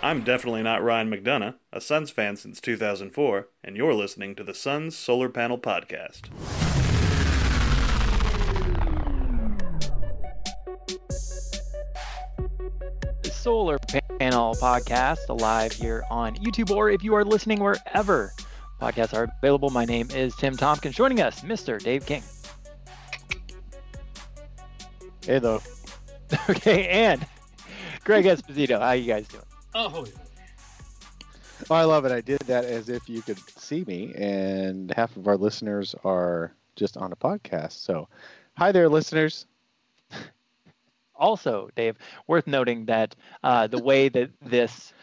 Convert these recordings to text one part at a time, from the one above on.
I'm definitely not Ryan McDonough, a Suns fan since 2004, and you're listening to the Suns Solar Panel Podcast. The Solar Panel Podcast, live here on YouTube, or if you are listening wherever podcasts are available. My name is Tim Tompkins. Joining us, Mr. Dave King. Hey, though. Okay, and Greg Esposito. How you guys doing? Oh, I love it. I did that as if you could see me, and half of our listeners are just on a podcast. So, hi there, listeners. Also, Dave, worth noting that the way that this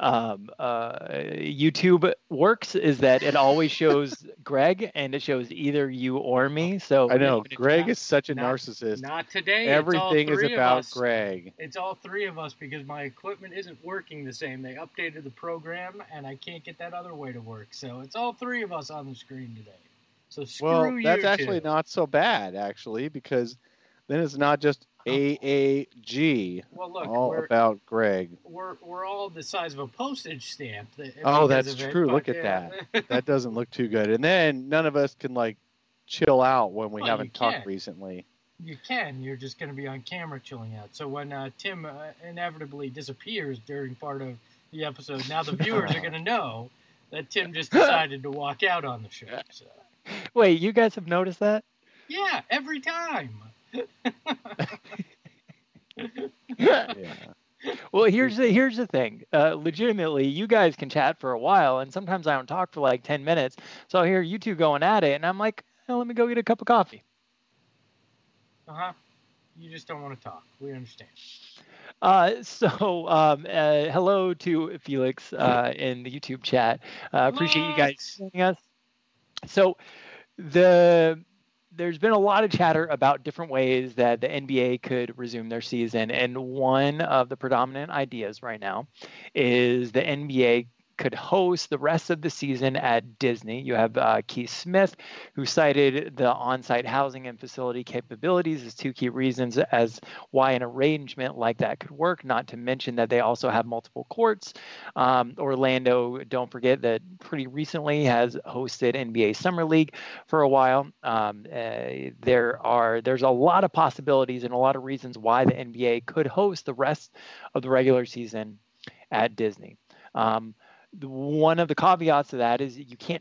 YouTube works is that it always shows Greg, and it shows either you or me. So I know Greg is such a narcissist. Not today. Everything is about Greg. It's all three of us because my equipment isn't working the same. They updated the program, and I can't get that other way to work. So it's all three of us on the screen today. So screw you. Well, that's actually not so bad, actually, because then it's not just AAG. Well, look, all about Greg. We're all the size of a postage stamp. That's true. Look at that. That doesn't look too good. And then none of us can chill out when we haven't talked recently. You can. You're just going to be on camera chilling out. So when Tim inevitably disappears during part of the episode, now the viewers are going to know that Tim just decided to walk out on the show. So. Wait, you guys have noticed that? Yeah, every time. Yeah. Well, here's the thing. Legitimately, you guys can chat for a while, and sometimes I don't talk for 10 minutes. So I'll hear you two going at it, and I'm like, let me go get a cup of coffee. You just don't want to talk. We understand. Hello to Felix in the YouTube chat. Appreciate you guys joining us. So there's been a lot of chatter about different ways that the NBA could resume their season. And one of the predominant ideas right now is the NBA could host the rest of the season at Disney. You have Keith Smith, who cited the on-site housing and facility capabilities as two key reasons as why an arrangement like that could work, not to mention that they also have multiple courts. Orlando, don't forget, that pretty recently has hosted NBA Summer League for a while. There's a lot of possibilities and a lot of reasons why the NBA could host the rest of the regular season at Disney. One of the caveats to that is you can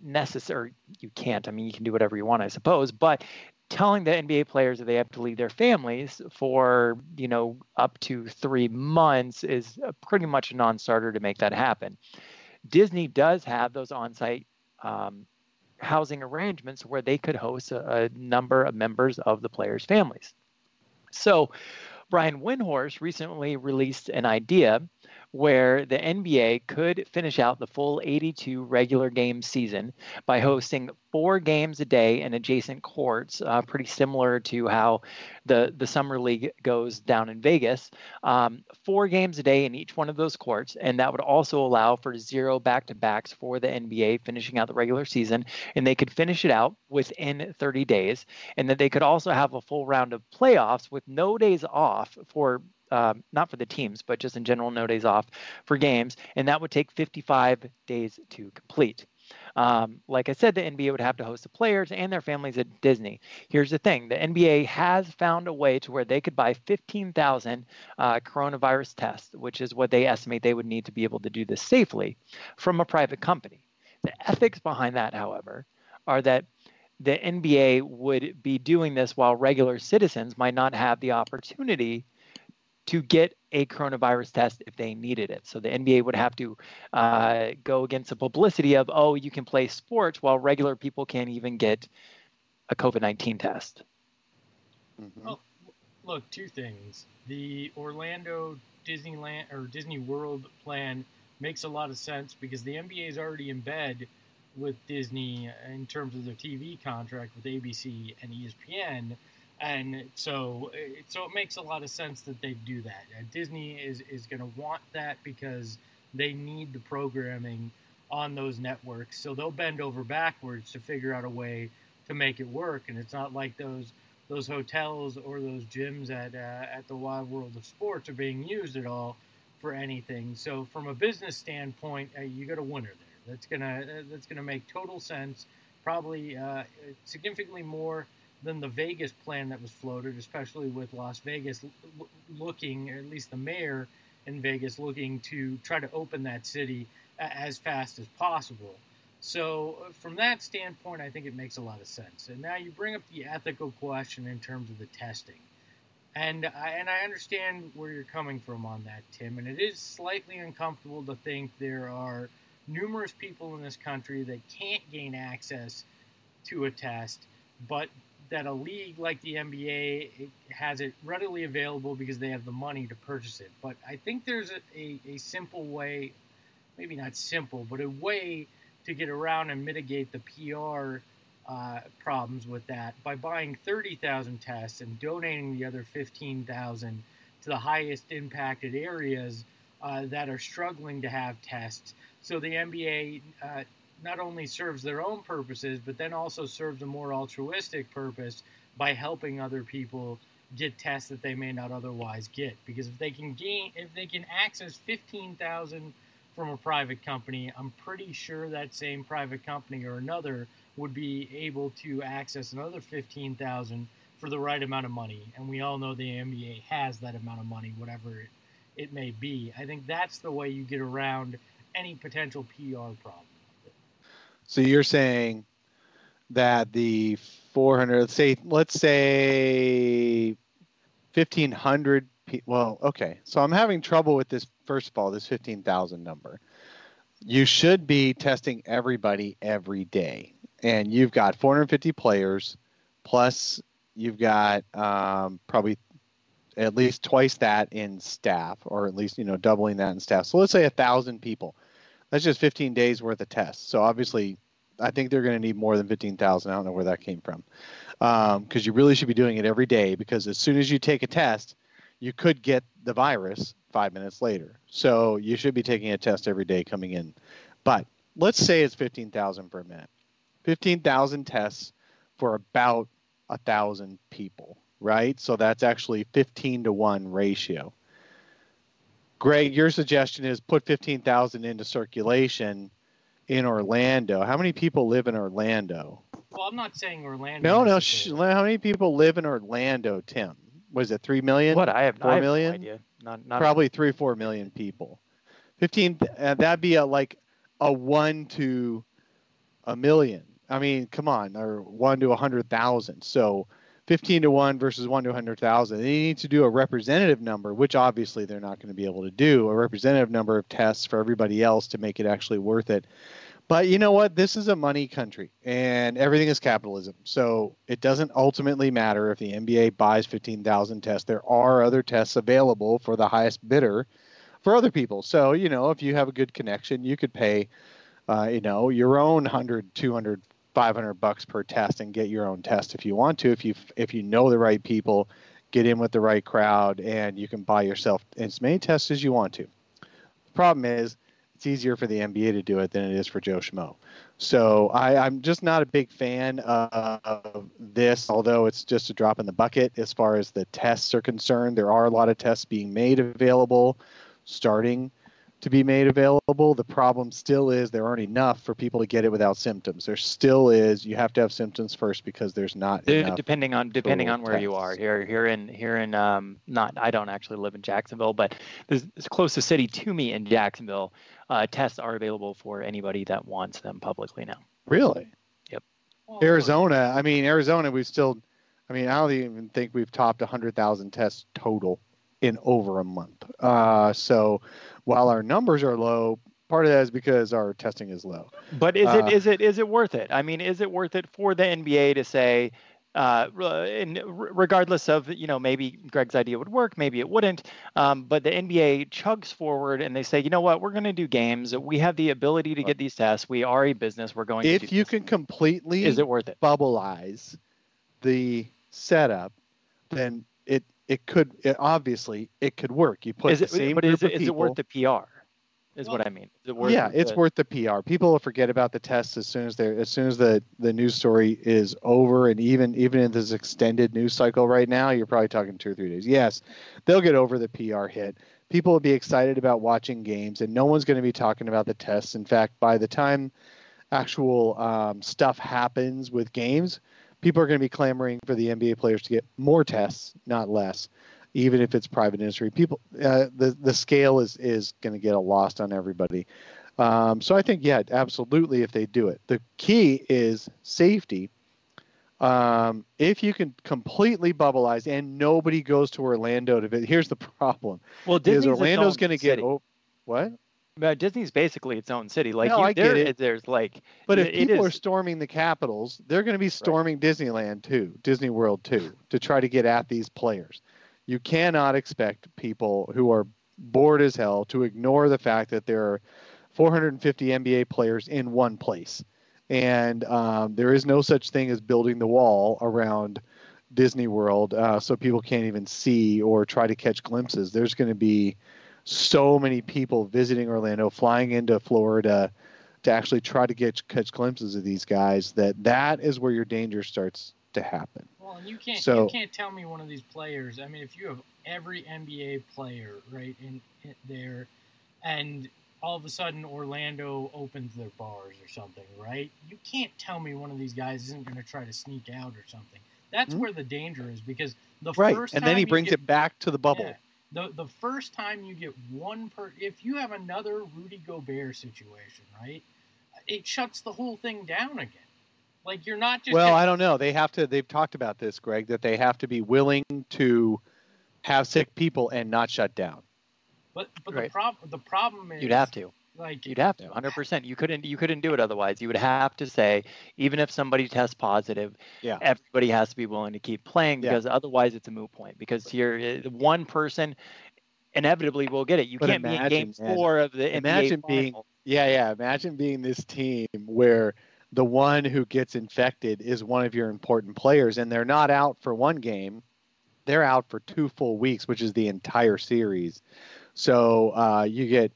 do whatever you want, I suppose, but telling the NBA players that they have to leave their families for, up to 3 months is pretty much a non-starter to make that happen. Disney does have those on-site housing arrangements where they could host a number of members of the players' families. So Brian Windhorst recently released an idea where the NBA could finish out the full 82 regular game season by hosting 4 games a day in adjacent courts, pretty similar to how the Summer League goes down in Vegas. 4 games a day in each one of those courts, and that would also allow for 0 back-to-backs for the NBA finishing out the regular season, and they could finish it out within 30 days, and that they could also have a full round of playoffs with no days off for not for the teams, but just in general, no days off for games, and that would take 55 days to complete. Like I said, the NBA would have to host the players and their families at Disney. Here's the thing. The NBA has found a way to where they could buy 15,000 coronavirus tests, which is what they estimate they would need to be able to do this safely, from a private company. The ethics behind that, however, are that the NBA would be doing this while regular citizens might not have the opportunity to get a coronavirus test if they needed it. So the NBA would have to go against the publicity of, you can play sports while regular people can't even get a COVID-19 test. Mm-hmm. Well, look, 2 things. The Orlando Disneyland or Disney World plan makes a lot of sense because the NBA is already in bed with Disney in terms of their TV contract with ABC and ESPN. And so it makes a lot of sense that they do that. Disney is going to want that because they need the programming on those networks. So they'll bend over backwards to figure out a way to make it work. And it's not like those hotels or those gyms at the Wild World of Sports are being used at all for anything. So from a business standpoint, you got a winner there. That's gonna make total sense. Probably significantly more than the Vegas plan that was floated, especially with Las Vegas looking, or at least the mayor in Vegas, looking to try to open that city as fast as possible. So from that standpoint, I think it makes a lot of sense. And now you bring up the ethical question in terms of the testing. And I understand where you're coming from on that, Tim. And it is slightly uncomfortable to think there are numerous people in this country that can't gain access to a test, but that a league like the NBA has it readily available because they have the money to purchase it. But I think there's a simple way, maybe not simple, but a way to get around and mitigate the PR problems with that by buying 30,000 tests and donating the other 15,000 to the highest impacted areas that are struggling to have tests. So the NBA not only serves their own purposes, but then also serves a more altruistic purpose by helping other people get tests that they may not otherwise get. Because if they can access 15,000 from a private company, I'm pretty sure that same private company or another would be able to access another 15,000 for the right amount of money. And we all know the NBA has that amount of money, whatever it may be. I think that's the way you get around any potential PR problem. So you're saying that the 400, let's say 1,500 people. Well, okay. So I'm having trouble with this. First of all, this 15,000 number. You should be testing everybody every day, and you've got 450 players, plus you've got probably at least twice that in staff, or at least doubling that in staff. So let's say 1,000 people. That's just 15 days worth of tests. So obviously, I think they're going to need more than 15,000. I don't know where that came from, because you really should be doing it every day. Because as soon as you take a test, you could get the virus 5 minutes later. So you should be taking a test every day coming in. But let's say it's 15,000 per minute. 15,000 tests for about 1,000 people, right? So that's actually 15-to-1 ratio. Greg, your suggestion is put 15,000 into circulation in Orlando. How many people live in Orlando? Well, I'm not saying Orlando. No. How many people live in Orlando, Tim? Was it 3 million? What? I have 4 million? no idea. Not Probably 3-4 million people. 15. That'd be like a 1 to a million. I mean, come on, or 1 to 100,000. So 15-to-1 versus 1 to 100,000. They need to do a representative number, which obviously they're not going to be able to do, a representative number of tests for everybody else to make it actually worth it. But you know what? This is a money country, and everything is capitalism. So it doesn't ultimately matter if the NBA buys 15,000 tests. There are other tests available for the highest bidder for other people. So, if you have a good connection, you could pay, your own 100, 200, $500 per test and get your own test if you want to. If you know the right people, get in with the right crowd, and you can buy yourself as many tests as you want to. The problem is it's easier for the NBA to do it than it is for Joe Schmo. So I'm just not a big fan of this, although it's just a drop in the bucket as far as the tests are concerned. There are a lot of tests being made available, starting to be made available. The problem still is there aren't enough for people to get it without symptoms. There still is. You have to have symptoms first because there's not enough. Depending on where you are here in not, I don't actually live in Jacksonville, but there's the closest city to me in Jacksonville. Tests are available for anybody that wants them publicly now. Really? Yep. Arizona, I don't even think we've topped 100,000 tests total in over a month. So while our numbers are low, part of that is because our testing is low. But is it worth it? I mean, is it worth it for the NBA to say, regardless of, maybe Greg's idea would work, maybe it wouldn't, but the NBA chugs forward and they say, you know what, we're going to do games. We have the ability to get these tests. We are a business. We're going to do If you can completely is it worth it? Bubbleize the setup, then it could obviously it could work. You put the same group of people. Is it worth the PR? is Well, what I mean. It's worth the PR. People will forget about the tests as soon as the news story is over, and even in this extended news cycle right now, you're probably talking 2 or 3 days. Yes, they'll get over the PR hit. People will be excited about watching games, and no one's going to be talking about the tests. In fact, by the time actual stuff happens with games, people are going to be clamoring for the NBA players to get more tests, not less, even if it's private industry. People, the scale is going to get lost on everybody. So I think, yeah, absolutely, if they do it. The key is safety. If you can completely bubbleize and nobody goes to Orlando to visit, here's the problem. Well, Disney's Orlando's going to get what? But Disney's basically its own city. Like, no, I get it. There's like, but if people are storming the capitals, they're going to be storming Disneyland too, Disney World too, to try to get at these players. You cannot expect people who are bored as hell to ignore the fact that there are 450 NBA players in one place. And there is no such thing as building the wall around Disney World so people can't even see or try to catch glimpses. There's going to be so many people visiting Orlando, flying into Florida to actually try to catch glimpses of these guys, that is where your danger starts to happen. Well, and you can't tell me one of these players. I mean, if you have every NBA player right in there, and all of a sudden Orlando opens their bars or something, right? You can't tell me one of these guys isn't going to try to sneak out or something. That's where the danger is, because first time, and then he brings it back to the bubble. Yeah, the first time you get if you have another Rudy Gobert situation, right? It shuts the whole thing down again. Like, you're not just... Well, I don't know. They've talked about this, Greg, that they have to be willing to have sick people and not shut down. But right. the problem is... You'd have to. You'd have to, 100%. You couldn't do it otherwise. You would have to say, even if somebody tests positive, everybody has to be willing to keep playing, because otherwise it's a moot point. Because one person inevitably will get it. You can't be in Game 4 of the NBA Final. Imagine being this team where the one who gets infected is one of your important players, and they're not out for one game. They're out for 2 full weeks, which is the entire series. So you get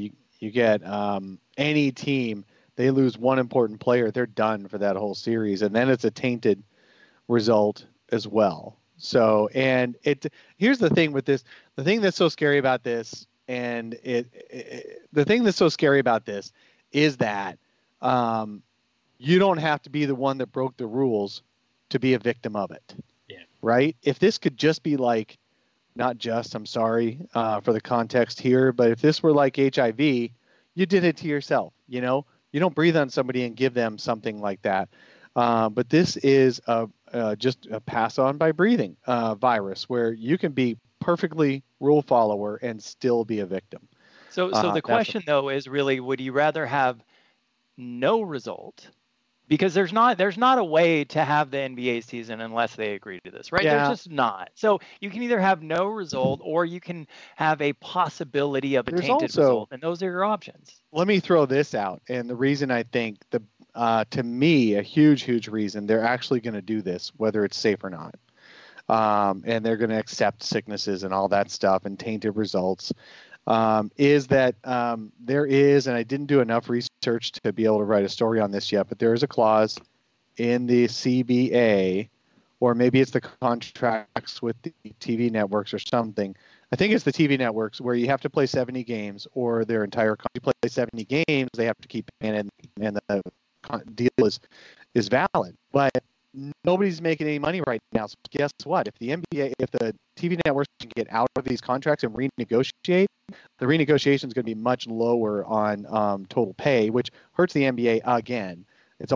any team, they lose one important player, they're done for that whole series, and then it's a tainted result as well. So, and here's the thing with this, the thing that's so scary about this, and the thing that's so scary about this is that you don't have to be the one that broke the rules to be a victim of it. Yeah. Right? If this could just be like, not just, I'm sorry for the context here, but if this were like HIV, you did it to yourself. You know, you don't breathe on somebody and give them something like that. But this is just a pass on by breathing virus, where you can be perfectly rule follower and still be a victim. So the question though is really, would you rather have no result? Because there's not a way to have the NBA season unless they agree to this, right? Yeah. There's just not. So you can either have no result, or you can have a possibility of a tainted result, and those are your options. Let me throw this out, and the reason I think to me, a huge reason they're actually going to do this, whether it's safe or not, and they're going to accept sicknesses and all that stuff and tainted results, is that there is, and I didn't do enough research to be able to write a story on this yet, but there is a clause in the CBA, or maybe it's the contracts with the TV networks or something. I think it's the TV networks, where you have to play 70 games, or their entire you play 70 games, they have to keep paying, and the deal is valid. But nobody's making any money right now. So guess what? If the TV networks can get out of these contracts and renegotiate, the renegotiation is going to be much lower on total pay, which hurts the NBA again.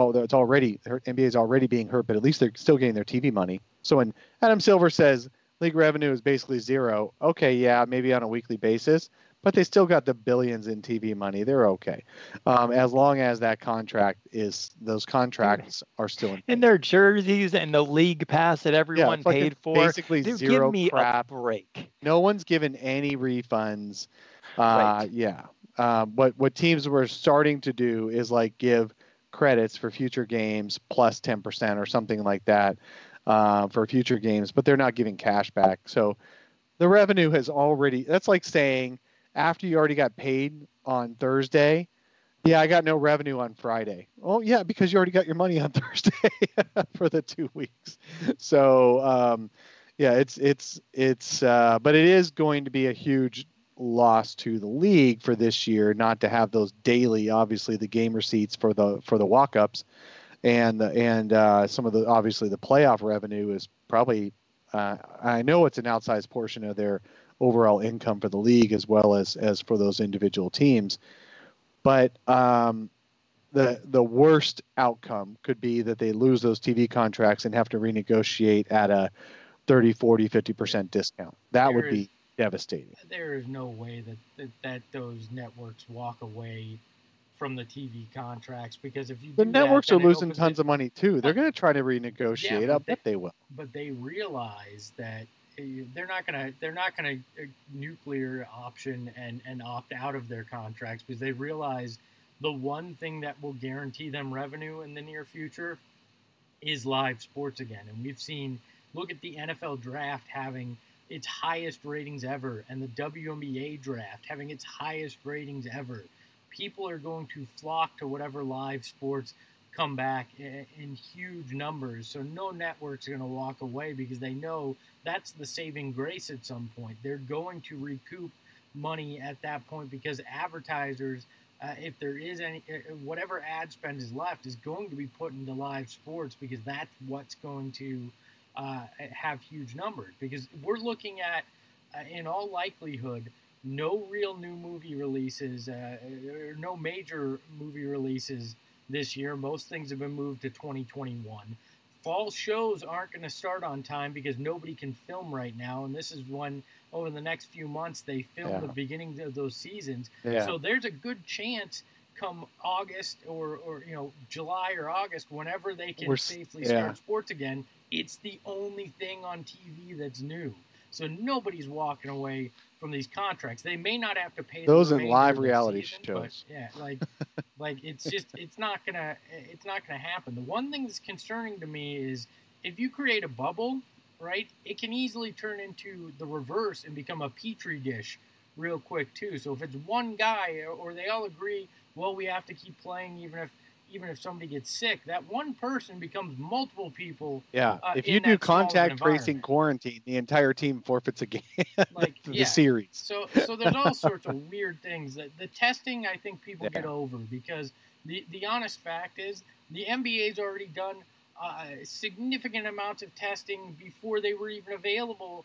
NBA is already being hurt, but at least they're still getting their TV money. So when Adam Silver says league revenue is basically zero, okay, yeah, maybe on a weekly basis, but they still got the billions in TV money. They're okay, as long as those contracts are still in. And their jerseys and the league pass that everyone paid for. Basically zero give me crap. A break. No one's given any refunds. Right. What teams were starting to do is like give credits for future games plus 10% or something like that for future games, but they're not giving cash back. So the revenue has already. That's like saying, after you already got paid on Thursday, yeah, I got no revenue on Friday. Oh yeah, because you already got your money on Thursday for the 2 weeks. So yeah, but it is going to be a huge loss to the league for this year not to have those daily, obviously the game receipts for the walk-ups, and some of the obviously the playoff revenue is probably I know it's an outsized portion of their overall income for the league as well as for those individual teams. But the worst outcome could be that they lose those TV contracts and have to renegotiate at a 30, 40, 50% discount. That would be devastating. There is no way that those networks walk away from the TV contracts, because if you the networks are losing tons of money too. They're going to try to renegotiate. Yeah, I bet they will. But they realize that they're not gonna nuclear option and opt out of their contracts, because they realize the one thing that will guarantee them revenue in the near future is live sports again. And we've seen, look at the NFL draft having its highest ratings ever, and the WNBA draft having its highest ratings ever. People are going to flock to whatever live sports come back in huge numbers. So no network's going to walk away, because they know that's the saving grace at some point. They're going to recoup money at that point, because advertisers, if there is any, whatever ad spend is left is going to be put into live sports, because that's what's going to have huge numbers. Because we're looking at, in all likelihood, no real new movie releases, no major movie releases this year. Most things have been moved to 2021. Fall shows aren't going to start on time because nobody can film right now, and this is when over the next few months they film the beginning of those seasons. So there's a good chance come August or July or August, whenever they can safely start sports again, it's the only thing on TV that's new. So nobody's walking away from these contracts. They may not have to pay those in live reality shows. But like it's not gonna happen. The one thing that's concerning to me is if you create a bubble, right, it can easily turn into the reverse and become a petri dish real quick too. So if it's one guy or they all agree, well, we have to keep playing even if somebody gets sick, that one person becomes multiple people. Yeah, if you do contact tracing quarantine, the entire team forfeits a game. The series. So there's all sorts of weird things. The testing, I think people get over, because the honest fact is the NBA's already done significant amounts of testing before they were even available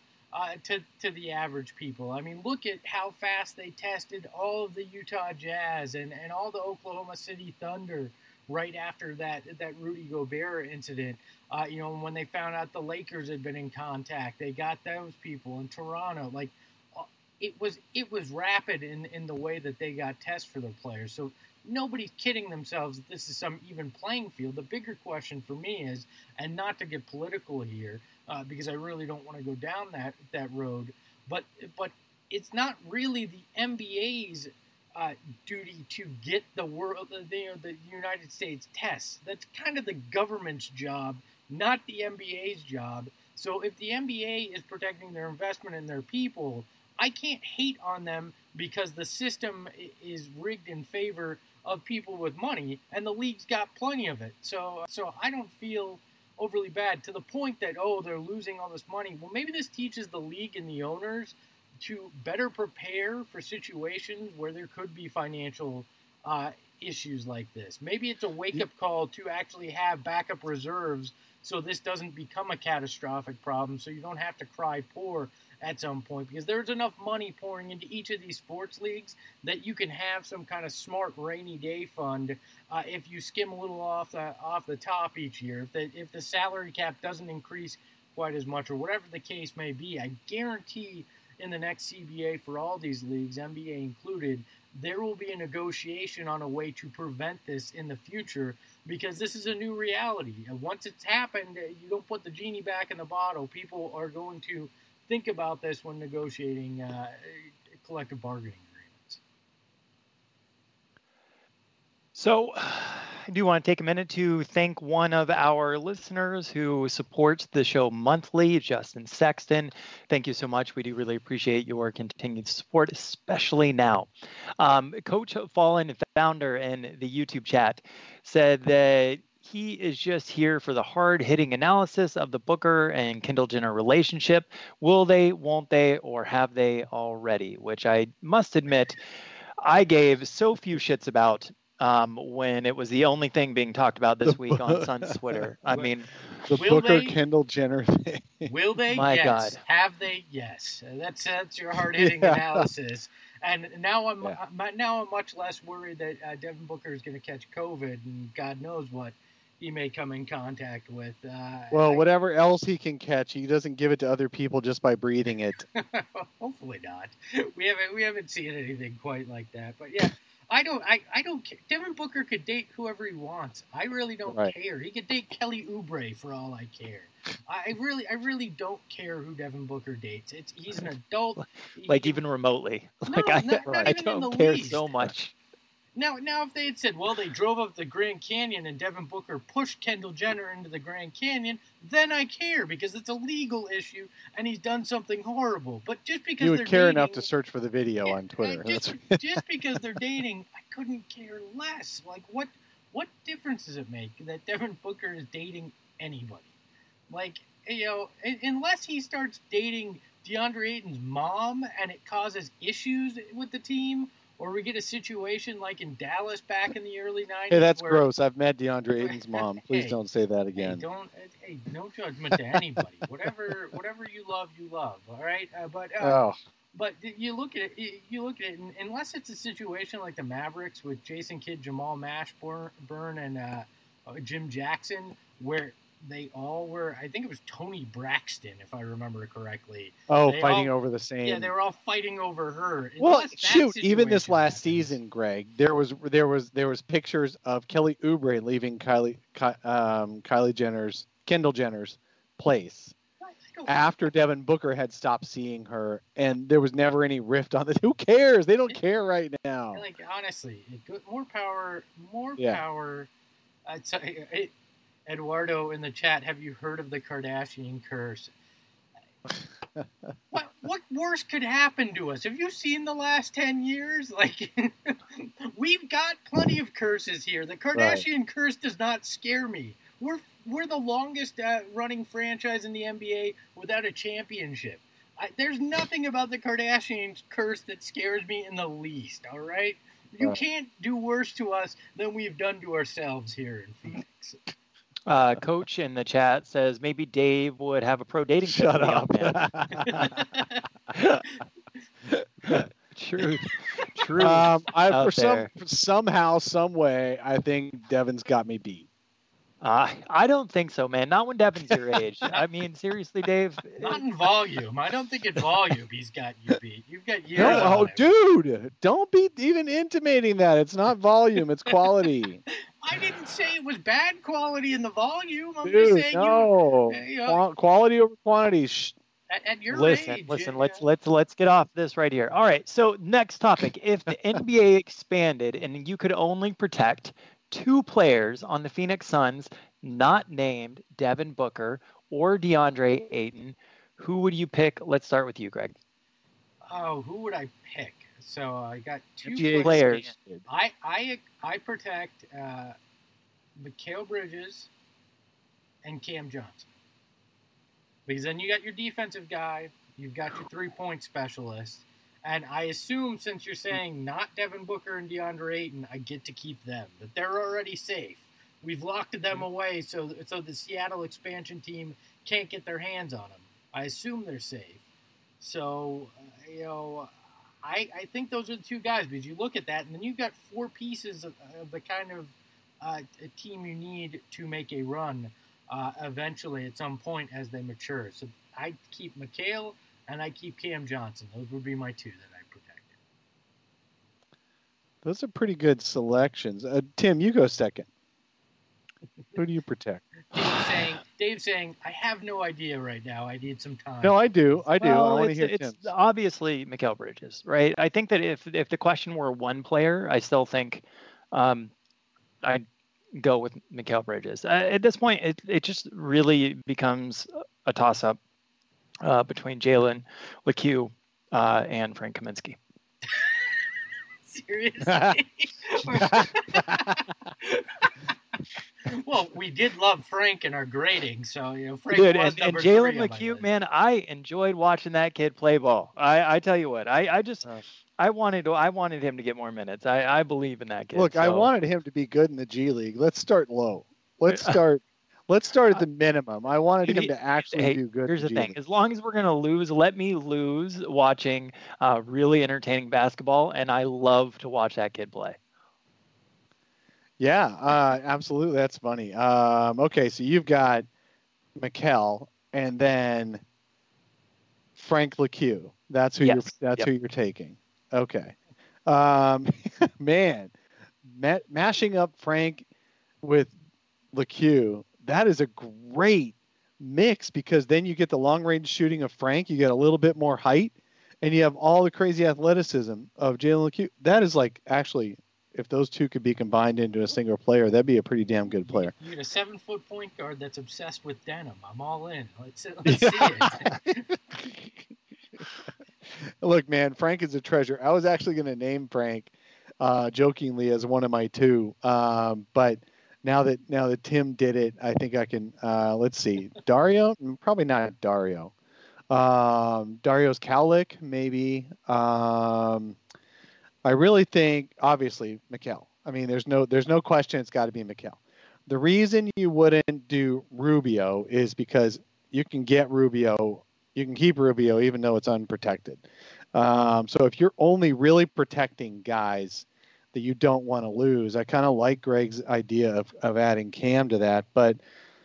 to the average people. I mean, look at how fast they tested all of the Utah Jazz and all the Oklahoma City Thunder right after that Rudy Gobert incident. When they found out the Lakers had been in contact, they got those people in Toronto. Like, it was rapid in the way that they got tests for their players. So nobody's kidding themselves that this is some even playing field. The bigger question for me is, and not to get political here, because I really don't want to go down that road, but it's not really the NBA's duty to get the United States tests. That's kind of the government's job, not the NBA's job. So if the NBA is protecting their investment in their people, I can't hate on them because the system is rigged in favor of people with money, and the league's got plenty of it. So I don't feel overly bad, to the point that, they're losing all this money. Well, maybe this teaches the league and the owners to better prepare for situations where there could be financial issues like this. Maybe it's a wake-up call to actually have backup reserves so this doesn't become a catastrophic problem, so you don't have to cry poor at some point, because there's enough money pouring into each of these sports leagues that you can have some kind of smart rainy day fund if you skim a little off the top each year. If the salary cap doesn't increase quite as much, or whatever the case may be, I guarantee in the next CBA for all these leagues, NBA included, there will be a negotiation on a way to prevent this in the future, because this is a new reality. And once it's happened, you don't put the genie back in the bottle. People are going to think about this when negotiating collective bargaining agreements. So I do want to take a minute to thank one of our listeners who supports the show monthly, Justin Sexton. Thank you so much. We do really appreciate your continued support, especially now. Coach Fallen Founder in the YouTube chat said that he is just here for the hard-hitting analysis of the Booker and Kendall Jenner relationship. Will they, won't they, or have they already? Which I must admit, I gave so few shits about when it was the only thing being talked about this week on Suns Twitter. I mean, the Booker Kendall Jenner thing. Will they? My yes. God. Have they? Yes. That's your hard-hitting analysis. And now I'm much less worried that Devin Booker is going to catch COVID and God knows what he may come in contact with. Whatever else he can catch, he doesn't give it to other people just by breathing it. Hopefully not. We haven't seen anything quite like that. But yeah, I don't care. Devin Booker could date whoever he wants. I really don't care. He could date Kelly Oubre for all I care. I really don't care who Devin Booker dates. He's an adult. Even remotely. Not I even in the don't care least. so much. Now, if they had said, well, they drove up the Grand Canyon and Devin Booker pushed Kendall Jenner into the Grand Canyon, then I care because it's a legal issue and he's done something horrible. But just because you would they're care dating, enough to search for the video on Twitter. Just because they're dating, I couldn't care less. Like, what difference does it make that Devin Booker is dating anybody? Like, unless he starts dating DeAndre Ayton's mom and it causes issues with the team. Or we get a situation like in Dallas back in the early 90s. Hey, that's gross. I've met DeAndre Ayton's mom. Please don't say that again. Hey, no judgment to anybody. Whatever you love, all right? But you look at it, and unless it's a situation like the Mavericks with Jason Kidd, Jamal Mashburn, and Jim Jackson, where they all were, I think it was Tony Braxton, if I remember correctly. Fighting over the same. Yeah, they were all fighting over her. Well, shoot, even this last season, Greg, there was pictures of Kelly Oubre leaving Kendall Jenner's place after Devin Booker had stopped seeing her, and there was never any rift on this. Who cares? They don't care right now. Like, honestly, more power. I'd say. Eduardo in the chat, have you heard of the Kardashian curse? What worse could happen to us? Have you seen the last 10 years? Like, we've got plenty of curses here. The Kardashian curse does not scare me. We're the longest running franchise in the NBA without a championship. There's nothing about the Kardashian curse that scares me in the least, all right? You can't do worse to us than we've done to ourselves here in Phoenix. Coach in the chat says maybe Dave would have a pro dating tip. Shut up. Truth. Somehow, some way, I think Devin's got me beat. I don't think so, man. Not when Devin's your age. I mean, seriously, Dave. Not in volume. I don't think in volume he's got you beat. You've got years. No, dude, don't be even intimating that. It's not volume. It's quality. I didn't say it was bad quality in the volume. I'm Dude, just saying quality over quantity. At your age. Listen. Let's get off this right here. All right. So next topic: if the NBA expanded and you could only protect 2 players on the Phoenix Suns, not named Devin Booker or DeAndre Ayton, who would you pick? Let's start with you, Greg. Oh, who would I pick? So I got 2 players. I protect Mikal Bridges and Cam Johnson. Because then you got your defensive guy, you've got your 3-point specialist, and I assume since you're saying not Devin Booker and DeAndre Ayton, I get to keep them. That they're already safe. We've locked them away so the Seattle expansion team can't get their hands on them. I assume they're safe. So, I think those are the 2 guys because you look at that and then you've got 4 pieces of the kind of a team you need to make a run eventually at some point as they mature. So I keep Mikal and I keep Cam Johnson. Those would be my 2 that I protected. Those are pretty good selections. Tim, you go second. Who do you protect? Dave's saying, I have no idea right now. I need some time. No, I do. Well, I want to hear Tim's. It's obviously Mikal Bridges, right? I think that if the question were one player, I still think I'd go with Mikal Bridges. At this point, it just really becomes a toss-up between Jalen LeCue and Frank Kaminsky. Seriously? Well, we did love Frank in our grading, so Frank Dude, was and number Jalen 3 on my LeCue, list. man, I enjoyed watching that kid play ball. I tell you what, I wanted him to get more minutes. I believe in that kid. Look, so. I wanted him to be good in the G League. Let's start low. Let's start at the minimum. I wanted him to actually do good. Here's in the the thing: G League. as long as we're gonna lose, let me lose watching really entertaining basketball, and I love to watch that kid play. Yeah, absolutely. That's funny. Okay, so you've got Mikal and then Frank LeCue. That's who you're taking. Okay. Man, mashing up Frank with LeCue, that is a great mix because then you get the long range shooting of Frank, you get a little bit more height, and you have all the crazy athleticism of Jalen LeCue. That is like actually, if those two could be combined into a single player, that'd be a pretty damn good player. You get a 7-foot point guard that's obsessed with denim. I'm all in. Let's see it. Look, man, Frank is a treasure. I was actually going to name Frank jokingly as one of my two, but now that Tim did it, I think I can. Let's see, Dario, probably not Dario. Dario's Cowlick, maybe. I really think, obviously, Mikal. I mean, there's no question it's got to be Mikal. The reason you wouldn't do Rubio is because you can keep Rubio even though it's unprotected. So if you're only really protecting guys that you don't want to lose, I kind of like Greg's idea of adding Cam to that. But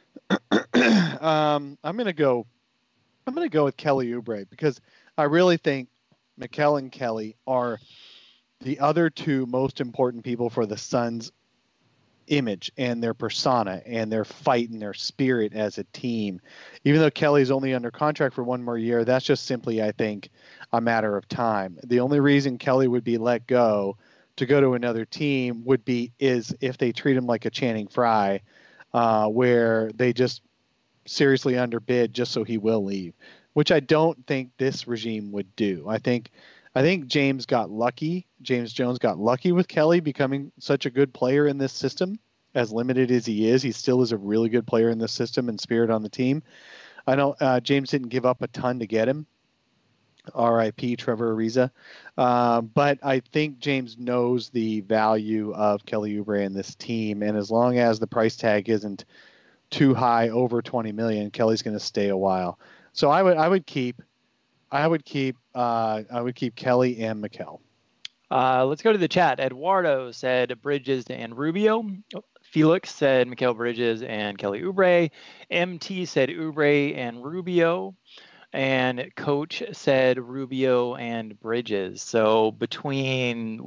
I'm gonna go with Kelly Oubre because I really think Mikal and Kelly are the other two most important people for the Suns' image and their persona and their fight and their spirit as a team. Even though Kelly's only under contract for one more year, that's just simply, I think, a matter of time. The only reason Kelly would be let go to go to another team is if they treat him like a Channing Frye, where they just seriously underbid just so he will leave, which I don't think this regime would do. I think James Jones got lucky with Kelly becoming such a good player in this system. As limited as he still is a really good player in this system and spirit on the team. I know James didn't give up a ton to get him. R.I.P. Trevor Ariza. But I think James knows the value of Kelly Oubre in this team. And as long as the price tag isn't too high, over $20 million, Kelly's going to stay a while. So I would keep Kelly and Mikal. Let's go to the chat. Eduardo said Bridges and Rubio. Felix said Mikal Bridges and Kelly Oubre. MT said Oubre and Rubio. And Coach said Rubio and Bridges. So between,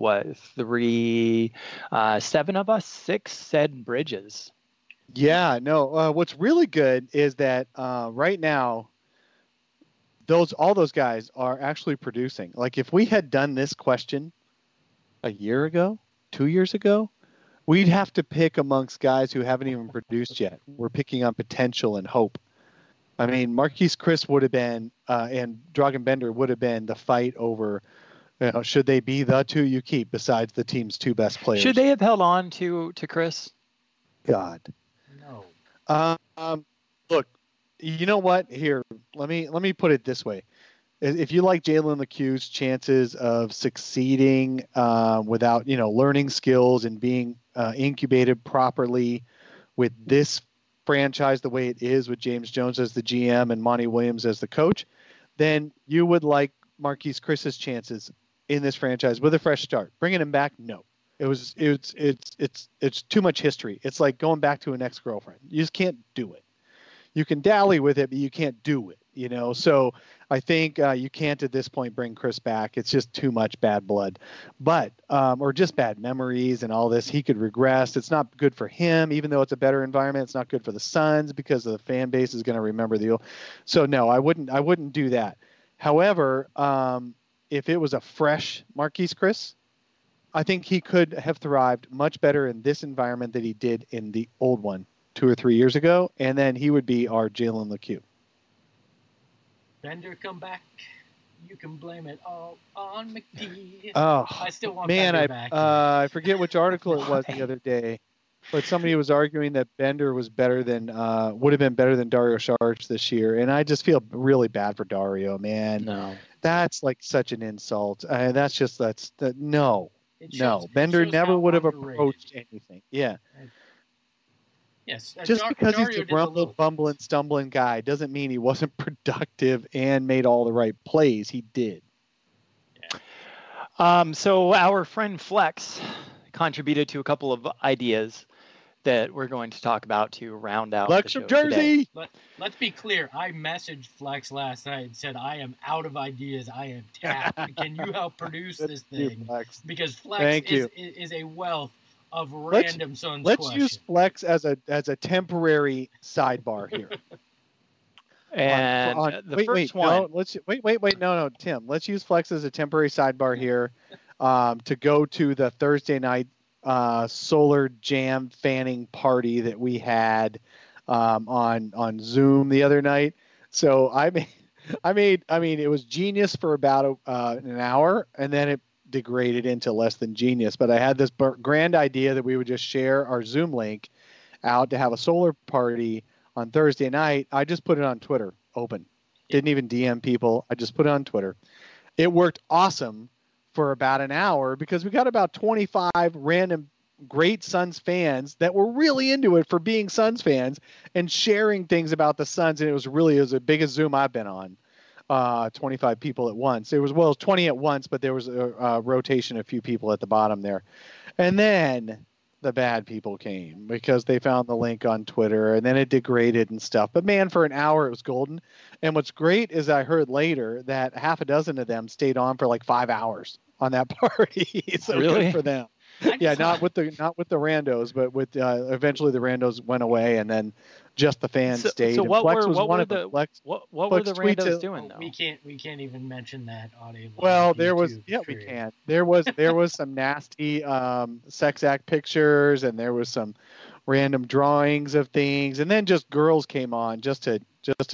7 of us, 6 said Bridges. Yeah, no. What's really good is that right now, all those guys are actually producing. Like if we had done this question a year ago, 2 years ago, we'd have to pick amongst guys who haven't even produced yet. We're picking on potential and hope. I mean, Marquise Chris would have been, and Dragan Bender would have been the fight over, should they be the two you keep besides the team's two best players? Should they have held on to Chris? God. No. Look, you know what? Here, let me put it this way. If you like Jalen LeCue's chances of succeeding without, learning skills and being incubated properly with this franchise the way it is with James Jones as the GM and Monty Williams as the coach, then you would like Marquise Chris's chances in this franchise with a fresh start. Bringing him back, no. It's too much history. It's like going back to an ex-girlfriend. You just can't do it. You can dally with it, but you can't do it. So I think you can't at this point bring Chris back. It's just too much bad blood, or just bad memories and all this. He could regress. It's not good for him, even though it's a better environment. It's not good for the Suns because the fan base is going to remember the old. So no, I wouldn't do that. However, if it was a fresh Marquise Chris, I think he could have thrived much better in this environment than he did in the old one 2 or 3 years ago, and then he would be our Jalen LeCue. Bender, come back. You can blame it all on McGee. Oh, I still want man, Bender back. I forget which article it was the other day, but somebody was arguing that Bender was better than would have been better than Dario Saric this year, and I just feel really bad for Dario, man. No. That's like such an insult. No. Shows, Bender never would have underrated. approached anything. Yeah. Yes. Just because Dario he's a did the rumbling, little fumbling, things. stumbling guy doesn't mean he wasn't productive and made all the right plays. He did. So our friend Flex contributed to a couple of ideas that we're going to talk about to round out Flex the from show today. Jersey. Let's be clear. I messaged Flex last night and said, I am out of ideas. I am tapped. Can you help produce this thing? Flex. Because Thank Flex you. is a wealth of random Suns Let's questions. use Flex as a temporary sidebar here. And the first one. No, wait. No, Tim. Let's use Flex as a temporary sidebar here to go to the Thursday night Solar Jam fanning party that we had on Zoom the other night. So I mean, it was genius for about an hour, and then it degraded into less than genius. But I had this grand idea that we would just share our Zoom link out to have a solar party on Thursday night. I just put it on Twitter, open. Didn't even DM people. I just put it on Twitter. It worked awesome for about an hour because we got about 25 random great Suns fans that were really into it for being Suns fans and sharing things about the Suns. And it was the biggest Zoom I've been on. 25 people at once. It was 20 at once, but there was a rotation, a few people at the bottom there. And then the bad people came because they found the link on Twitter, and then it degraded and stuff. But man, for an hour, it was golden. And what's great is I heard later that half a dozen of them stayed on for like 5 hours on that party. So Really? good for them. Yeah, not with the randos, but with eventually the randos went away, and then just the fans stayed. So and what Flex were was what one were of them. the Flex, what Flex were the tweets randos it. doing though? We can't even mention that audio. Well, there was we can. There was some nasty sex act pictures, and there was some random drawings of things, and then just girls came on just to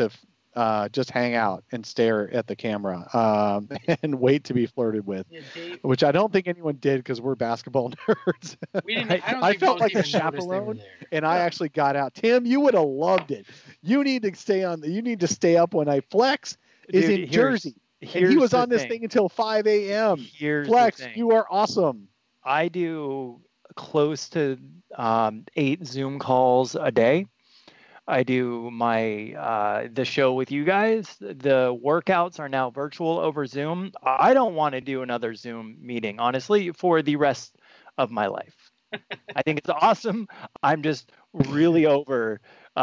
hang out and stare at the camera and wait to be flirted with, which I don't think anyone did because we're basketball nerds. I felt like a chaperone, and I actually got out. Tim, you would have loved it. You need to stay on. You need to stay up when Flex is in Jersey, and he was on this thing until 5 a.m. Flex, you are awesome. I do close to 8 Zoom calls a day. I do the show with you guys. The workouts are now virtual over Zoom. I don't want to do another Zoom meeting, honestly, for the rest of my life. I think it's awesome. I'm just really over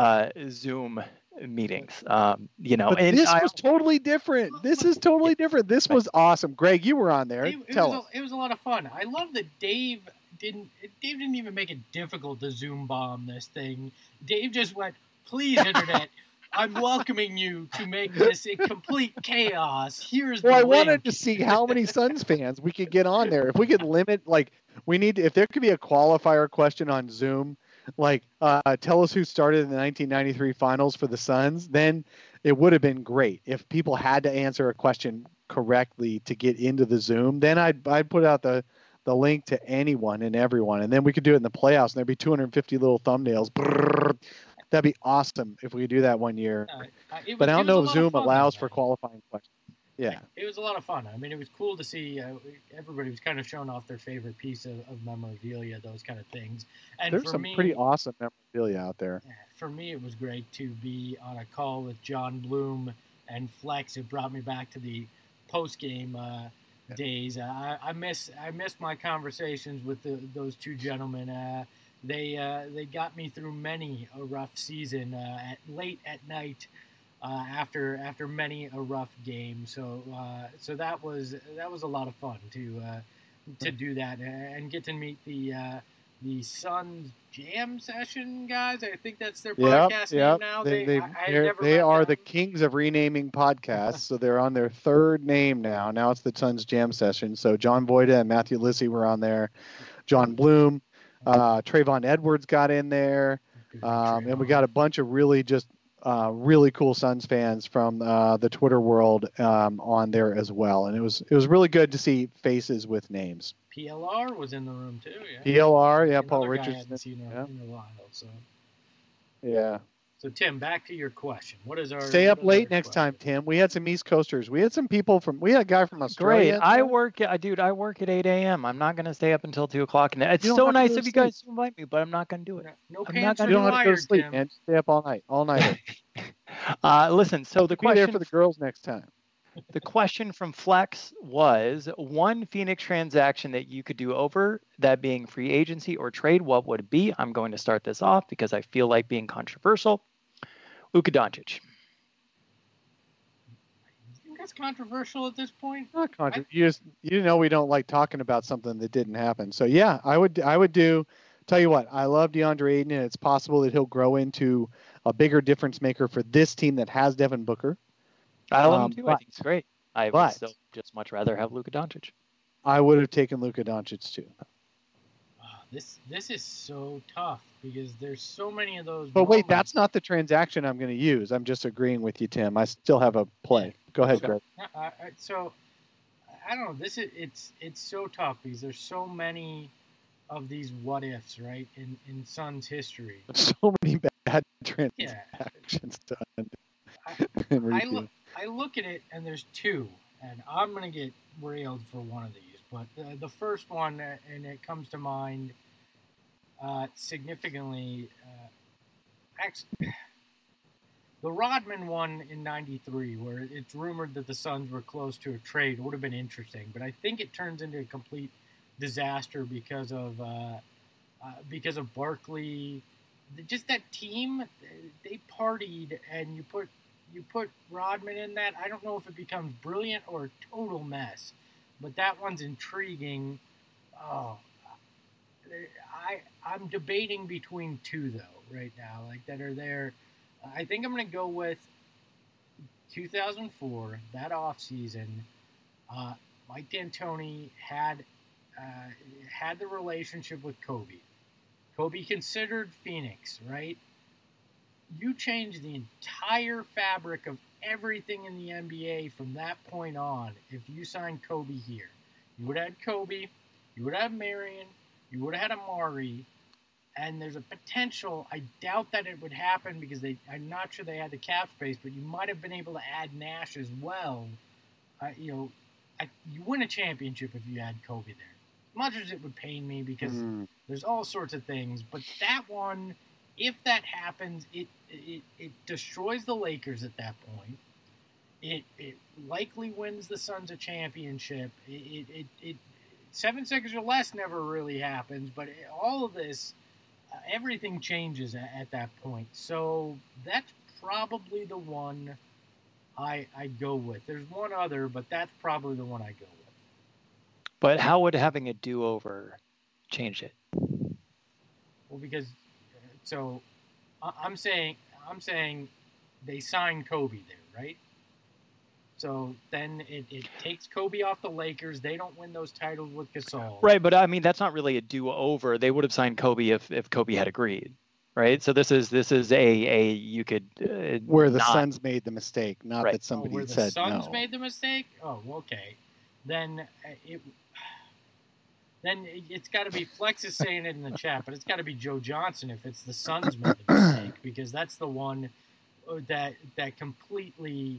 Zoom meetings. But this was totally different. This is totally different. This was awesome. Greg, you were on there. Tell us. It was a lot of fun. I love that Dave didn't even make it difficult to Zoom bomb this thing. Dave just went, "Please, internet, I'm welcoming you to make this a complete chaos. Here's the link." I wanted to see how many Suns fans we could get on there. If we could limit, if there could be a qualifier question on Zoom, tell us who started in the 1993 finals for the Suns, then it would have been great. If people had to answer a question correctly to get into the Zoom, then I'd put out the link to anyone and everyone, and then we could do it in the playoffs, and there'd be 250 little thumbnails. Brrr. That'd be awesome if we could do that one year. But I don't know if Zoom allows for qualifying questions. Yeah. It was a lot of fun. I mean, it was cool to see everybody was kind of showing off their favorite piece of memorabilia, those kind of things. And there's some pretty awesome memorabilia out there. For me, it was great to be on a call with John Bloom and Flex. It brought me back to the post-game days. I miss my conversations with those two gentlemen. They got me through many a rough season late at night after many a rough game. So that was a lot of fun to do that and get to meet the the Suns Jam Session guys. I think that's their podcast name now. They are the kings of renaming podcasts, so they're on their third name now. Now it's the Suns Jam Session. So John Boyda and Matthew Lissy were on there. John Bloom, Trayvon Edwards got in there, and we got a bunch of really cool Suns fans from the Twitter world on there as well. And it was really good to see faces with names. PLR was in the room too. Yeah. PLR, yeah, Another Paul guy I Richardson. hadn't seen in a while. So. Yeah. So Tim, back to your question. What is our stay up late next time, Tim? We had some East Coasters. We had some people we had a guy from Australia. Great. I work at 8 a.m. I'm not going to stay up until 2 o'clock. And it's so nice of you guys to invite me, but I'm not going to do it. No pants You don't have to go to sleep, Tim. man. Stay up all night. Listen, so the question be there for the girls next time. The question from Flex was one Phoenix transaction that you could do over, that being free agency or trade. What would it be? I'm going to start this off because I feel like being controversial. Luka Doncic. You think that's controversial at this point? Not controversial. You know we don't like talking about something that didn't happen. So yeah, I would do. Tell you what, I love DeAndre Ayton, and it's possible that he'll grow into a bigger difference maker for this team that has Devin Booker. I love him too. I think it's great. I would still just much rather have Luka Doncic. I would have taken Luka Doncic too. This is so tough because there's so many of those. But wait, that's not the transaction I'm going to use. I'm just agreeing with you, Tim. I still have a play. Go ahead, Greg. So I don't know. It's so tough because there's so many of these what ifs, right? In Suns history. So many bad transactions done. I look at it and there's two, and I'm going to get railed for one of these. But the first one, and it comes to mind significantly, the Rodman one in '93, where it's rumored that the Suns were close to a trade, would have been interesting. But I think it turns into a complete disaster because of Barkley. Just that team, they partied, and you put Rodman in that. I don't know if it becomes brilliant or a total mess. But that one's intriguing. I'm debating between two, though, right now, that are there. I think I'm going to go with 2004, that offseason. Mike D'Antoni had the relationship with Kobe. Kobe considered Phoenix, right? You change the entire fabric of everything in the NBA from that point on. If you signed Kobe here, you would have had Kobe, you would have Marion, you would have had Amari, and there's a potential. I doubt that it would happen because I'm not sure they had the cap space, but you might have been able to add Nash as well. You win a championship if you had Kobe there. As much as it would pain me because there's all sorts of things, but that one, if that happens, it destroys the Lakers at that point. It likely wins the Suns a championship. It 7 seconds or less never really happens, but all of this, everything changes at that point. So that's probably the one I go with. There's one other, but that's probably the one I go with. But how would having a do-over change it? Well, because so I'm saying they signed Kobe there, right? So then it takes Kobe off the Lakers. They don't win those titles with Gasol. Right, but I mean that's not really a do-over. They would have signed Kobe if Kobe had agreed, right? So this is a you could where the Suns made the mistake, not that somebody where said the Suns no. made the mistake. Oh, okay. Then it's got to be Flex is saying it in the chat, but it's got to be Joe Johnson if it's the Suns made the mistake because that's the one that completely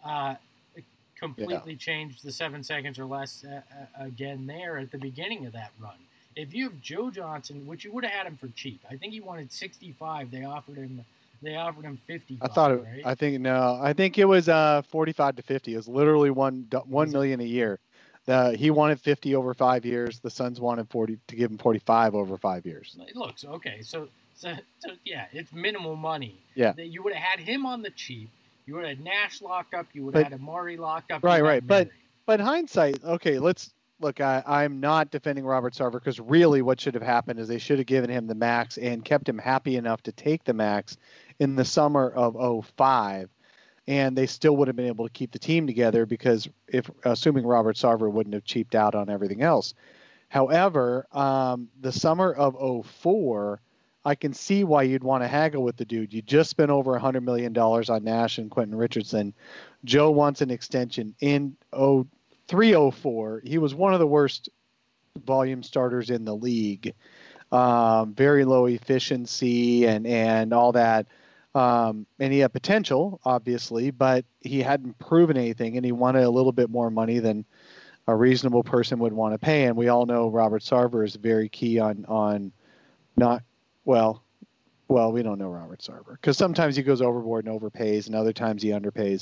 changed the 7 seconds or less again there at the beginning of that run. If you have Joe Johnson, which you would have had him for cheap, I think he wanted 65. They offered him 55. I think it was 45 to 50. It was literally $1 million a year. He wanted 50 over 5 years. The Suns wanted 40 to give him 45 over 5 years. It looks okay. So yeah, it's minimal money. Yeah, you would have had him on the cheap. You would have had Nash locked up. You would have had Amari locked up. Right. But hindsight, okay, let's look, I'm not defending Robert Sarver because really what should have happened is they should have given him the max and kept him happy enough to take the max in the summer of 05. And they still would have been able to keep the team together because assuming Robert Sarver wouldn't have cheaped out on everything else. However, the summer of 04, I can see why you'd want to haggle with the dude. You just spent over $100 million on Nash and Quentin Richardson. Joe wants an extension in 03-04. He was one of the worst volume starters in the league. Very low efficiency and all that. And he had potential, obviously, but he hadn't proven anything, and he wanted a little bit more money than a reasonable person would want to pay. And we all know Robert Sarver is very key on not well, we don't know Robert Sarver because sometimes he goes overboard and overpays, and other times he underpays.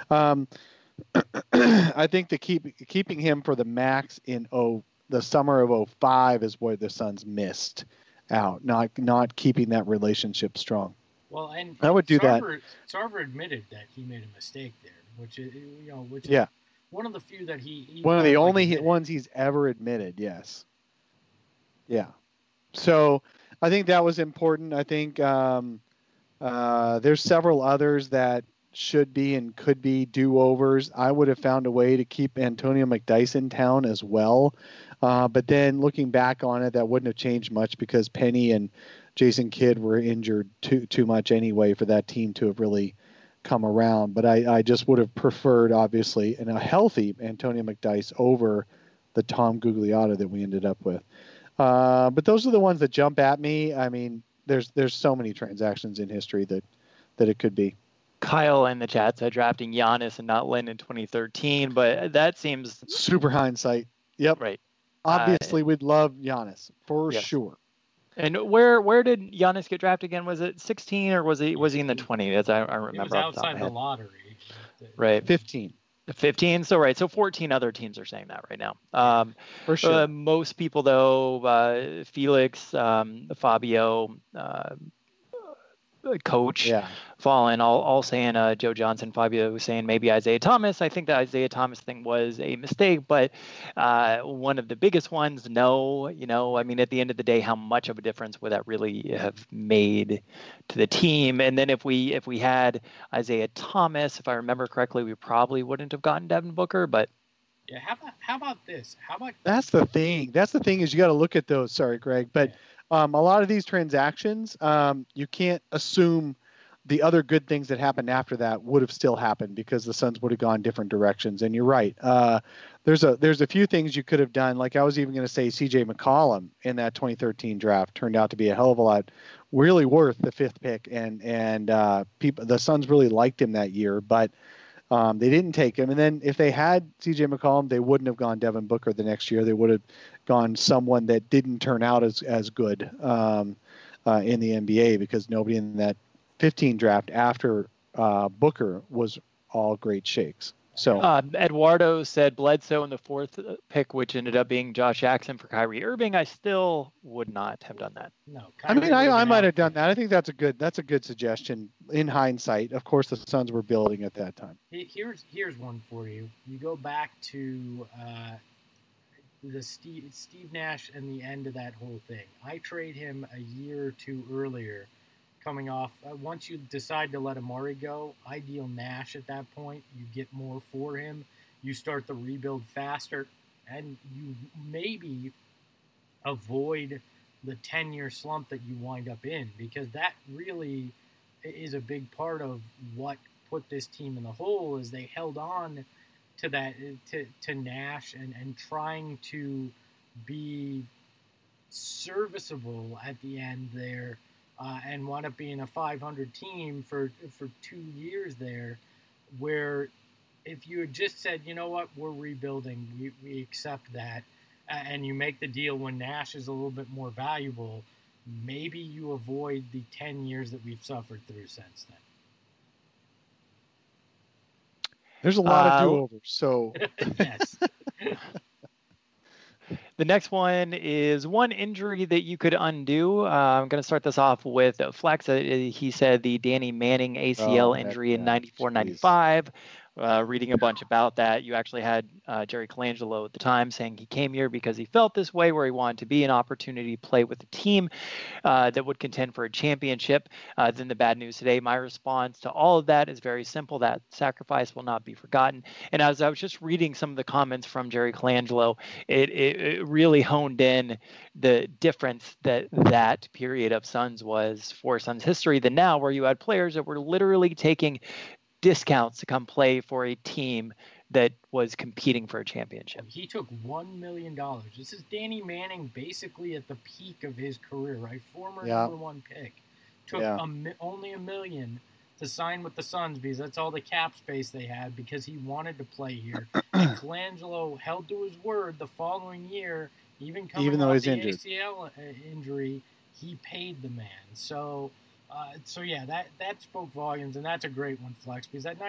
I think keeping him for the max in the summer of 05 is where the Suns missed out, not keeping that relationship strong. Well, and I would do that. Sarver admitted that he made a mistake there, which is one of the few that he one of the only ones he's ever admitted. Yes. Yeah. So I think that was important. I think there's several others that should be and could be do-overs. I would have found a way to keep Antonio McDyess in town as well. But then looking back on it, that wouldn't have changed much because Penny and Jason Kidd were injured too much anyway for that team to have really come around. But I just would have preferred, obviously, a healthy Antonio McDyess over the Tom Gugliotta that we ended up with. But those are the ones that jump at me. I mean, there's so many transactions in history that it could be. Kyle in the chat said drafting Giannis and not Lin in 2013, but that seems super hindsight. Yep. Right. Obviously, we'd love Giannis for sure. And where did Giannis get drafted again? Was it 16 or was he in the 20? As I remember. He was outside the lottery. Right. 15. 15. So right. So 14 other teams are saying that right now. For sure. Most people though, Felix, Fabio, Coach, Fallen, all saying Joe Johnson, Fabio was saying maybe Isaiah Thomas. I think the Isaiah Thomas thing was a mistake, but one of the biggest ones, no. I mean, at the end of the day, how much of a difference would that really have made to the team? And then if we had Isaiah Thomas, if I remember correctly, we probably wouldn't have gotten Devin Booker, but yeah. How about this? That's the thing. Is you got to look at those. Sorry, Greg, but. A lot of these transactions, you can't assume the other good things that happened after that would have still happened because the Suns would have gone different directions. And you're right. There's a few things you could have done. Like I was even going to say CJ McCollum in that 2013 draft turned out to be a hell of a lot, really worth the 5th pick. And the Suns really liked him that year, but they didn't take him. And then if they had CJ McCollum, they wouldn't have gone Devin Booker the next year. They would have gone someone that didn't turn out as good in the NBA because nobody in that 15 draft after Booker was all great shakes. So Eduardo said Bledsoe in the 4th pick, which ended up being Josh Jackson for Kyrie Irving. I still would not have done that. No, I might have done that. I think that's a good suggestion in hindsight. Of course, the Suns were building at that time. Here's one for you. You go back to the Steve Nash and the end of that whole thing. I trade him a year or two earlier. Coming off, once you decide to let Amari go, I deal Nash at that point. You get more for him. You start the rebuild faster, and you maybe avoid the 10-year slump that you wind up in, because that really is a big part of what put this team in the hole. Is they held on to that to Nash and trying to be serviceable at the end there. And wound up being a 500 team for 2 years there, where if you had just said, you know what, we're rebuilding, we accept that, and you make the deal when Nash is a little bit more valuable, maybe you avoid the 10 years that we've suffered through since then. There's a lot of do-overs, so... Yes. The next one is one injury that you could undo. I'm going to start this off with Flex. He said the Danny Manning ACL injury in 94-95. reading a bunch about that. You actually had Jerry Colangelo at the time saying he came here because he felt this way, where he wanted to be an opportunity to play with a team that would contend for a championship. Then the bad news today, my response to all of that is very simple. That sacrifice will not be forgotten. And as I was just reading some of the comments from Jerry Colangelo, it really honed in the difference that period of Suns was for Suns history than now, where you had players that were literally taking discounts to come play for a team that was competing for a championship. He took $1 million. This is Danny Manning basically at the peak of his career, right? Former number one pick. Took only $1 million to sign with the Suns because that's all the cap space they had because he wanted to play here. And Colangelo held to his word the following year, even though he's injured. ACL injury, he paid the man. So yeah, that spoke volumes, and that's a great one, Flex, because that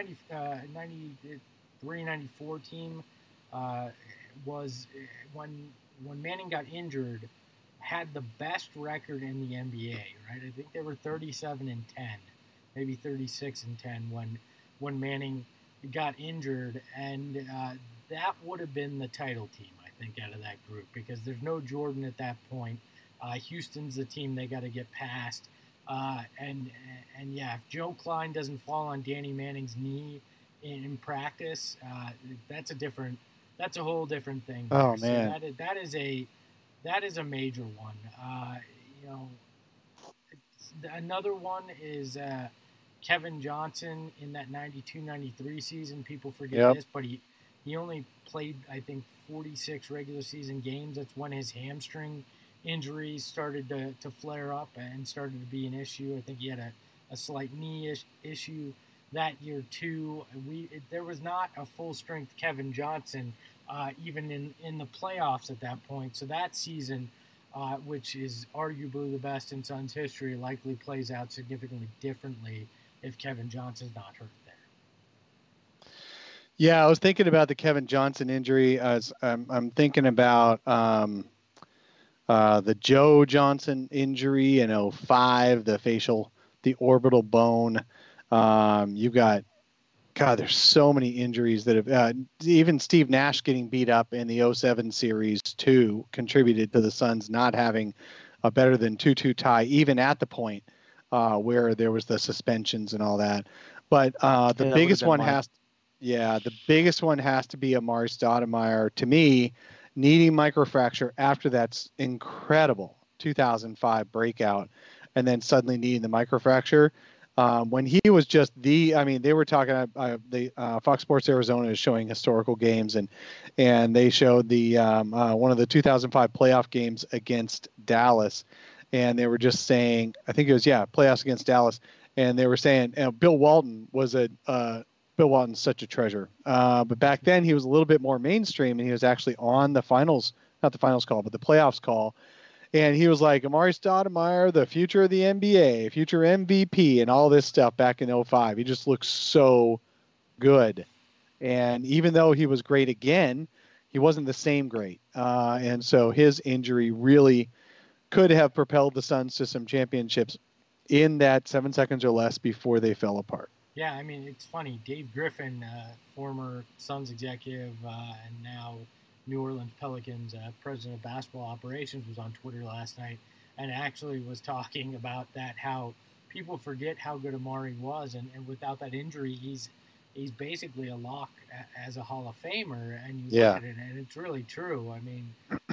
93-94 team was when Manning got injured, had the best record in the NBA, right? I think they were 37-10, maybe 36-10 when Manning got injured, and that would have been the title team, I think, out of that group, because there's no Jordan at that point. Houston's the team they got to get past. And yeah, if Joe Kleine doesn't fall on Danny Manning's knee in practice, that's a whole different thing. Oh so man, that is a major one. Another one is Kevin Johnson in that 92-93 season. People forget this, but he only played, I think, 46 regular season games. That's when his hamstring injuries started to flare up and started to be an issue. I think he had a slight knee issue that year too. There was not a full strength Kevin Johnson even in the playoffs at that point. So that season, which is arguably the best in Suns history, likely plays out significantly differently if Kevin Johnson's not hurt there. Yeah, I was thinking about the Kevin Johnson injury. I'm thinking about the Joe Johnson injury in 2005, the orbital bone. You've got, there's so many injuries that have, even Steve Nash getting beat up in the 2007 series too contributed to the Suns not having a better than 2-2 tie, even at the point where there was the suspensions and all that. But the biggest one the biggest one has to be Amar'e Stoudemire, to me, needing microfracture after that's incredible 2005 breakout, and then suddenly needing the microfracture. When he was just they were talking, Fox Sports Arizona is showing historical games, and they showed the one of the 2005 playoff games against Dallas, and they were just saying, I think it was, playoffs against Dallas, and they were saying, Bill Walton was Bill Walton's such a treasure. But back then he was a little bit more mainstream, and he was actually on the finals, not the finals call, but the playoffs call. And he was like, Amar'e Stoudemire, the future of the NBA, future MVP, and all this stuff back in 2005. He just looks so good. And even though he was great again, he wasn't the same great. And so his injury really could have propelled the Suns to some championships in that 7 seconds or less before they fell apart. Yeah, I mean, it's funny. Dave Griffin, former Suns executive and now New Orleans Pelicans president of basketball operations, was on Twitter last night and actually was talking about that, how people forget how good Amar'e was, and without that injury, he's basically a lock as a Hall of Famer, and you look at it, and it's really true. I mean,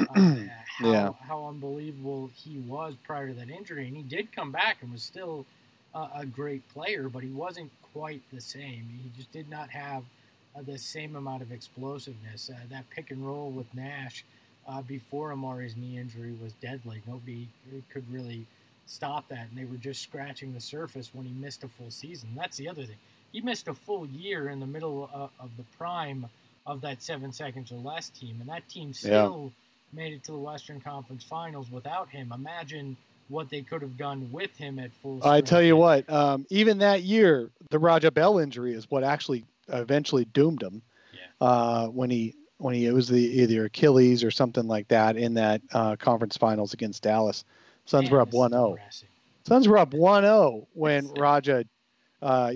how unbelievable he was prior to that injury, and he did come back and was still a great player, but he wasn't quite the same. He just did not have the same amount of explosiveness. That pick and roll with Nash before Amar'e's knee injury was deadly. Nobody could really stop that, and they were just scratching the surface when he missed a full season. That's the other thing. He missed a full year in the middle of the prime of that 7 seconds or less team, and that team still made it to the Western Conference Finals without him. Imagine what they could have done with him at full strength. I tell you what, even that year, the Raja Bell injury is what actually eventually doomed him. When he was either Achilles or something like that in that conference finals against Dallas. Suns were up 1-0. Suns were up 1-0 when Raja,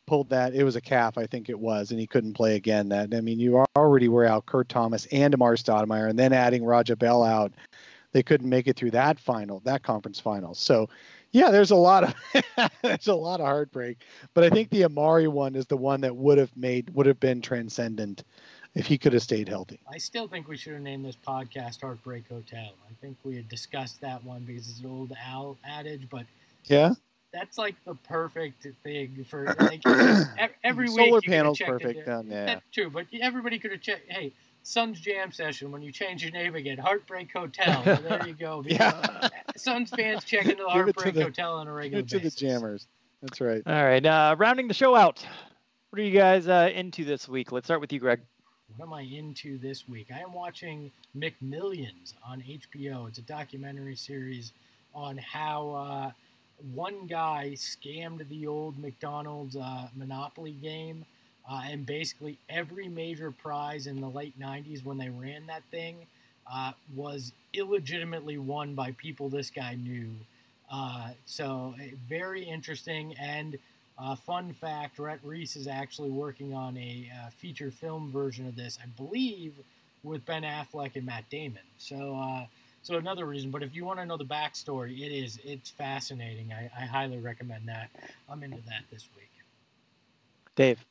pulled that. It was a calf, I think it was, and he couldn't play again. You already were out Kurt Thomas and Amar Stoudemire, and then adding Raja Bell out, they couldn't make it through that conference final. So, yeah, there's a lot of heartbreak. But I think the Amari one is the one that would have been transcendent if he could have stayed healthy. I still think we should have named this podcast Heartbreak Hotel. I think we had discussed that one because it's an old Al adage, but yeah, that's like the perfect thing for like, every week. Solar panels perfect. Yeah. That's true, but everybody could have checked. Hey, Suns Jam Session, when you change your name again, Heartbreak Hotel. Well, there you go. Yeah. Suns fans check into the Heartbreak Hotel on a regular basis. To the Jammers. That's right. All right. Rounding the show out. What are you guys into this week? Let's start with you, Greg. What am I into this week? I am watching McMillions on HBO. It's a documentary series on how one guy scammed the old McDonald's Monopoly game, and basically every major prize in the late 90s when they ran that thing was illegitimately won by people this guy knew. So very interesting. And fun fact, Rhett Reese is actually working on a feature film version of this, I believe, with Ben Affleck and Matt Damon. So another reason. But if you want to know the backstory, it's fascinating. I highly recommend that. I'm into that this week. Dave.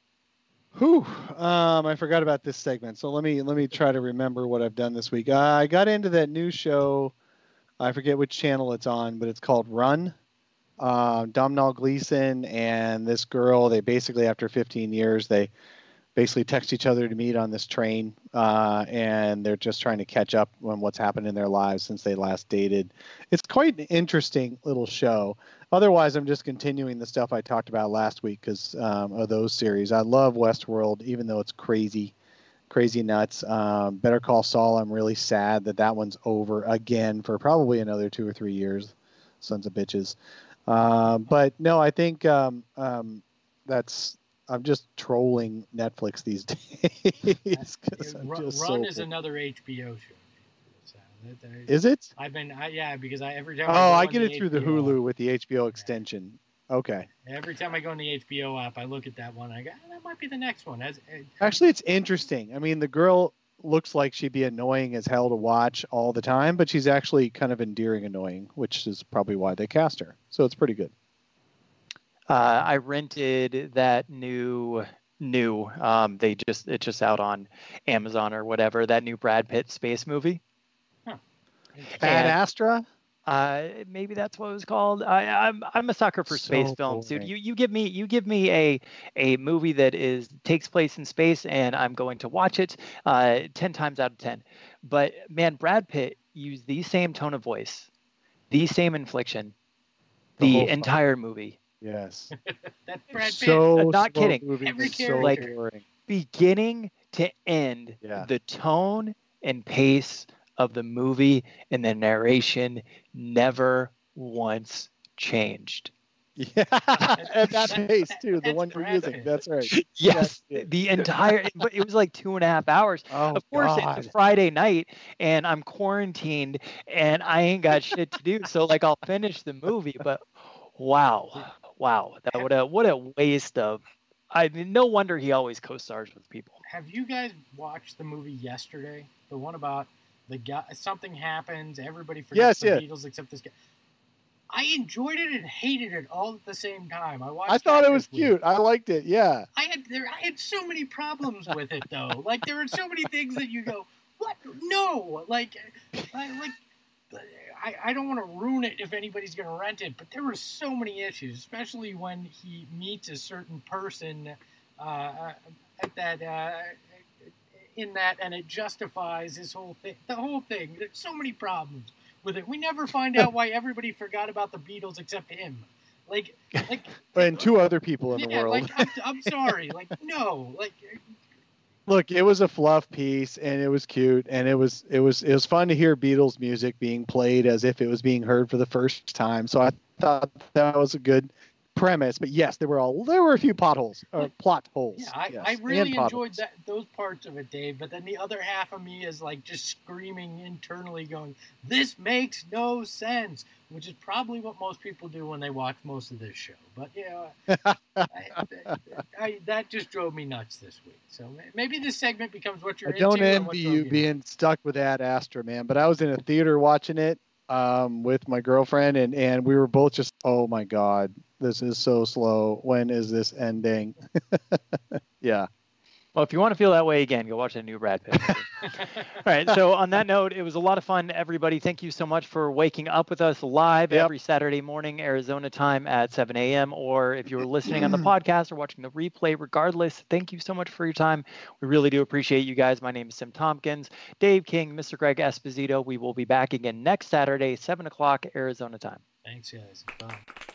I forgot about this segment. So let me try to remember what I've done this week. I got into that new show. I forget which channel it's on, but it's called Run. Domhnall Gleeson and this girl, they basically, after 15 years, they basically text each other to meet on this train, and they're just trying to catch up on what's happened in their lives since they last dated. It's quite an interesting little show. Otherwise, I'm just continuing the stuff I talked about last week because of those series. I love Westworld, even though it's crazy nuts. Better Call Saul, I'm really sad that one's over again for probably another 2 or 3 years. Sons of bitches. But no, I think I'm just trolling Netflix these days. Run is another HBO show. Is it? Because every time. I get it through the Hulu with the HBO extension. Okay. Every time I go in the HBO app, I look at that one. I go, that might be the next one. Actually, it's interesting. I mean, the girl looks like she'd be annoying as hell to watch all the time, but she's actually kind of endearing annoying, which is probably why they cast her. So it's pretty good. I rented that new it's just out on Amazon or whatever, that new Brad Pitt space movie. Ad Astra? Maybe that's what it was called. I'm a sucker for space films, dude. You give me a movie that takes place in space, and I'm going to watch it 10 times out of 10. But man, Brad Pitt used the same tone of voice, the same inflection, the entire movie. Yes. That's Brad Pitt. So not kidding. Every character, beginning to end, the tone and pace of the movie and the narration never once changed. Yeah, at that pace too. The one you're using. That's right. Yes, the entire. But it was like 2.5 hours. Oh, of course, God. It's a Friday night, and I'm quarantined, and I ain't got shit to do. So like, I'll finish the movie. But wow, what a waste of. I mean, no wonder he always co-stars with people. Have you guys watched the movie Yesterday? The one about the guy, something happens, everybody forgets the Beatles except this guy. I enjoyed it and hated it all at the same time. I thought it was cute. I liked it. Yeah. I had so many problems with it though. Like there were so many things that you go, what? No. I don't want to ruin it if anybody's going to rent it, but there were so many issues, especially when he meets a certain person at that. In that, and it justifies his whole thing. The whole thing. There's so many problems with it. We never find out why everybody forgot about the Beatles except him. And 2 other people in the world. I'm sorry. No. Look, it was a fluff piece, and it was cute, and it was fun to hear Beatles music being played as if it was being heard for the first time. So I thought that was a good premise, but yes, there were a few potholes or plot holes. Yeah, I yes, really enjoyed those parts of it, Dave. But then the other half of me is like just screaming internally, going, "This makes no sense," which is probably what most people do when they watch most of this show. But that just drove me nuts this week. So maybe this segment becomes what you're into. I don't envy you being stuck with Ad Astra, man. But I was in a theater watching it with my girlfriend, and we were both just, oh my God, this is so slow. When is this ending? Yeah. Well, if you want to feel that way again, go watch a new Brad Pitt movie. All right. So on that note, it was a lot of fun, everybody. Thank you so much for waking up with us live every Saturday morning, Arizona time at 7 a.m. Or if you were listening on the podcast or watching the replay, regardless, thank you so much for your time. We really do appreciate you guys. My name is Sim Tompkins, Dave King, Mr. Greg Esposito. We will be back again next Saturday, 7 o'clock Arizona time. Thanks, guys. Bye.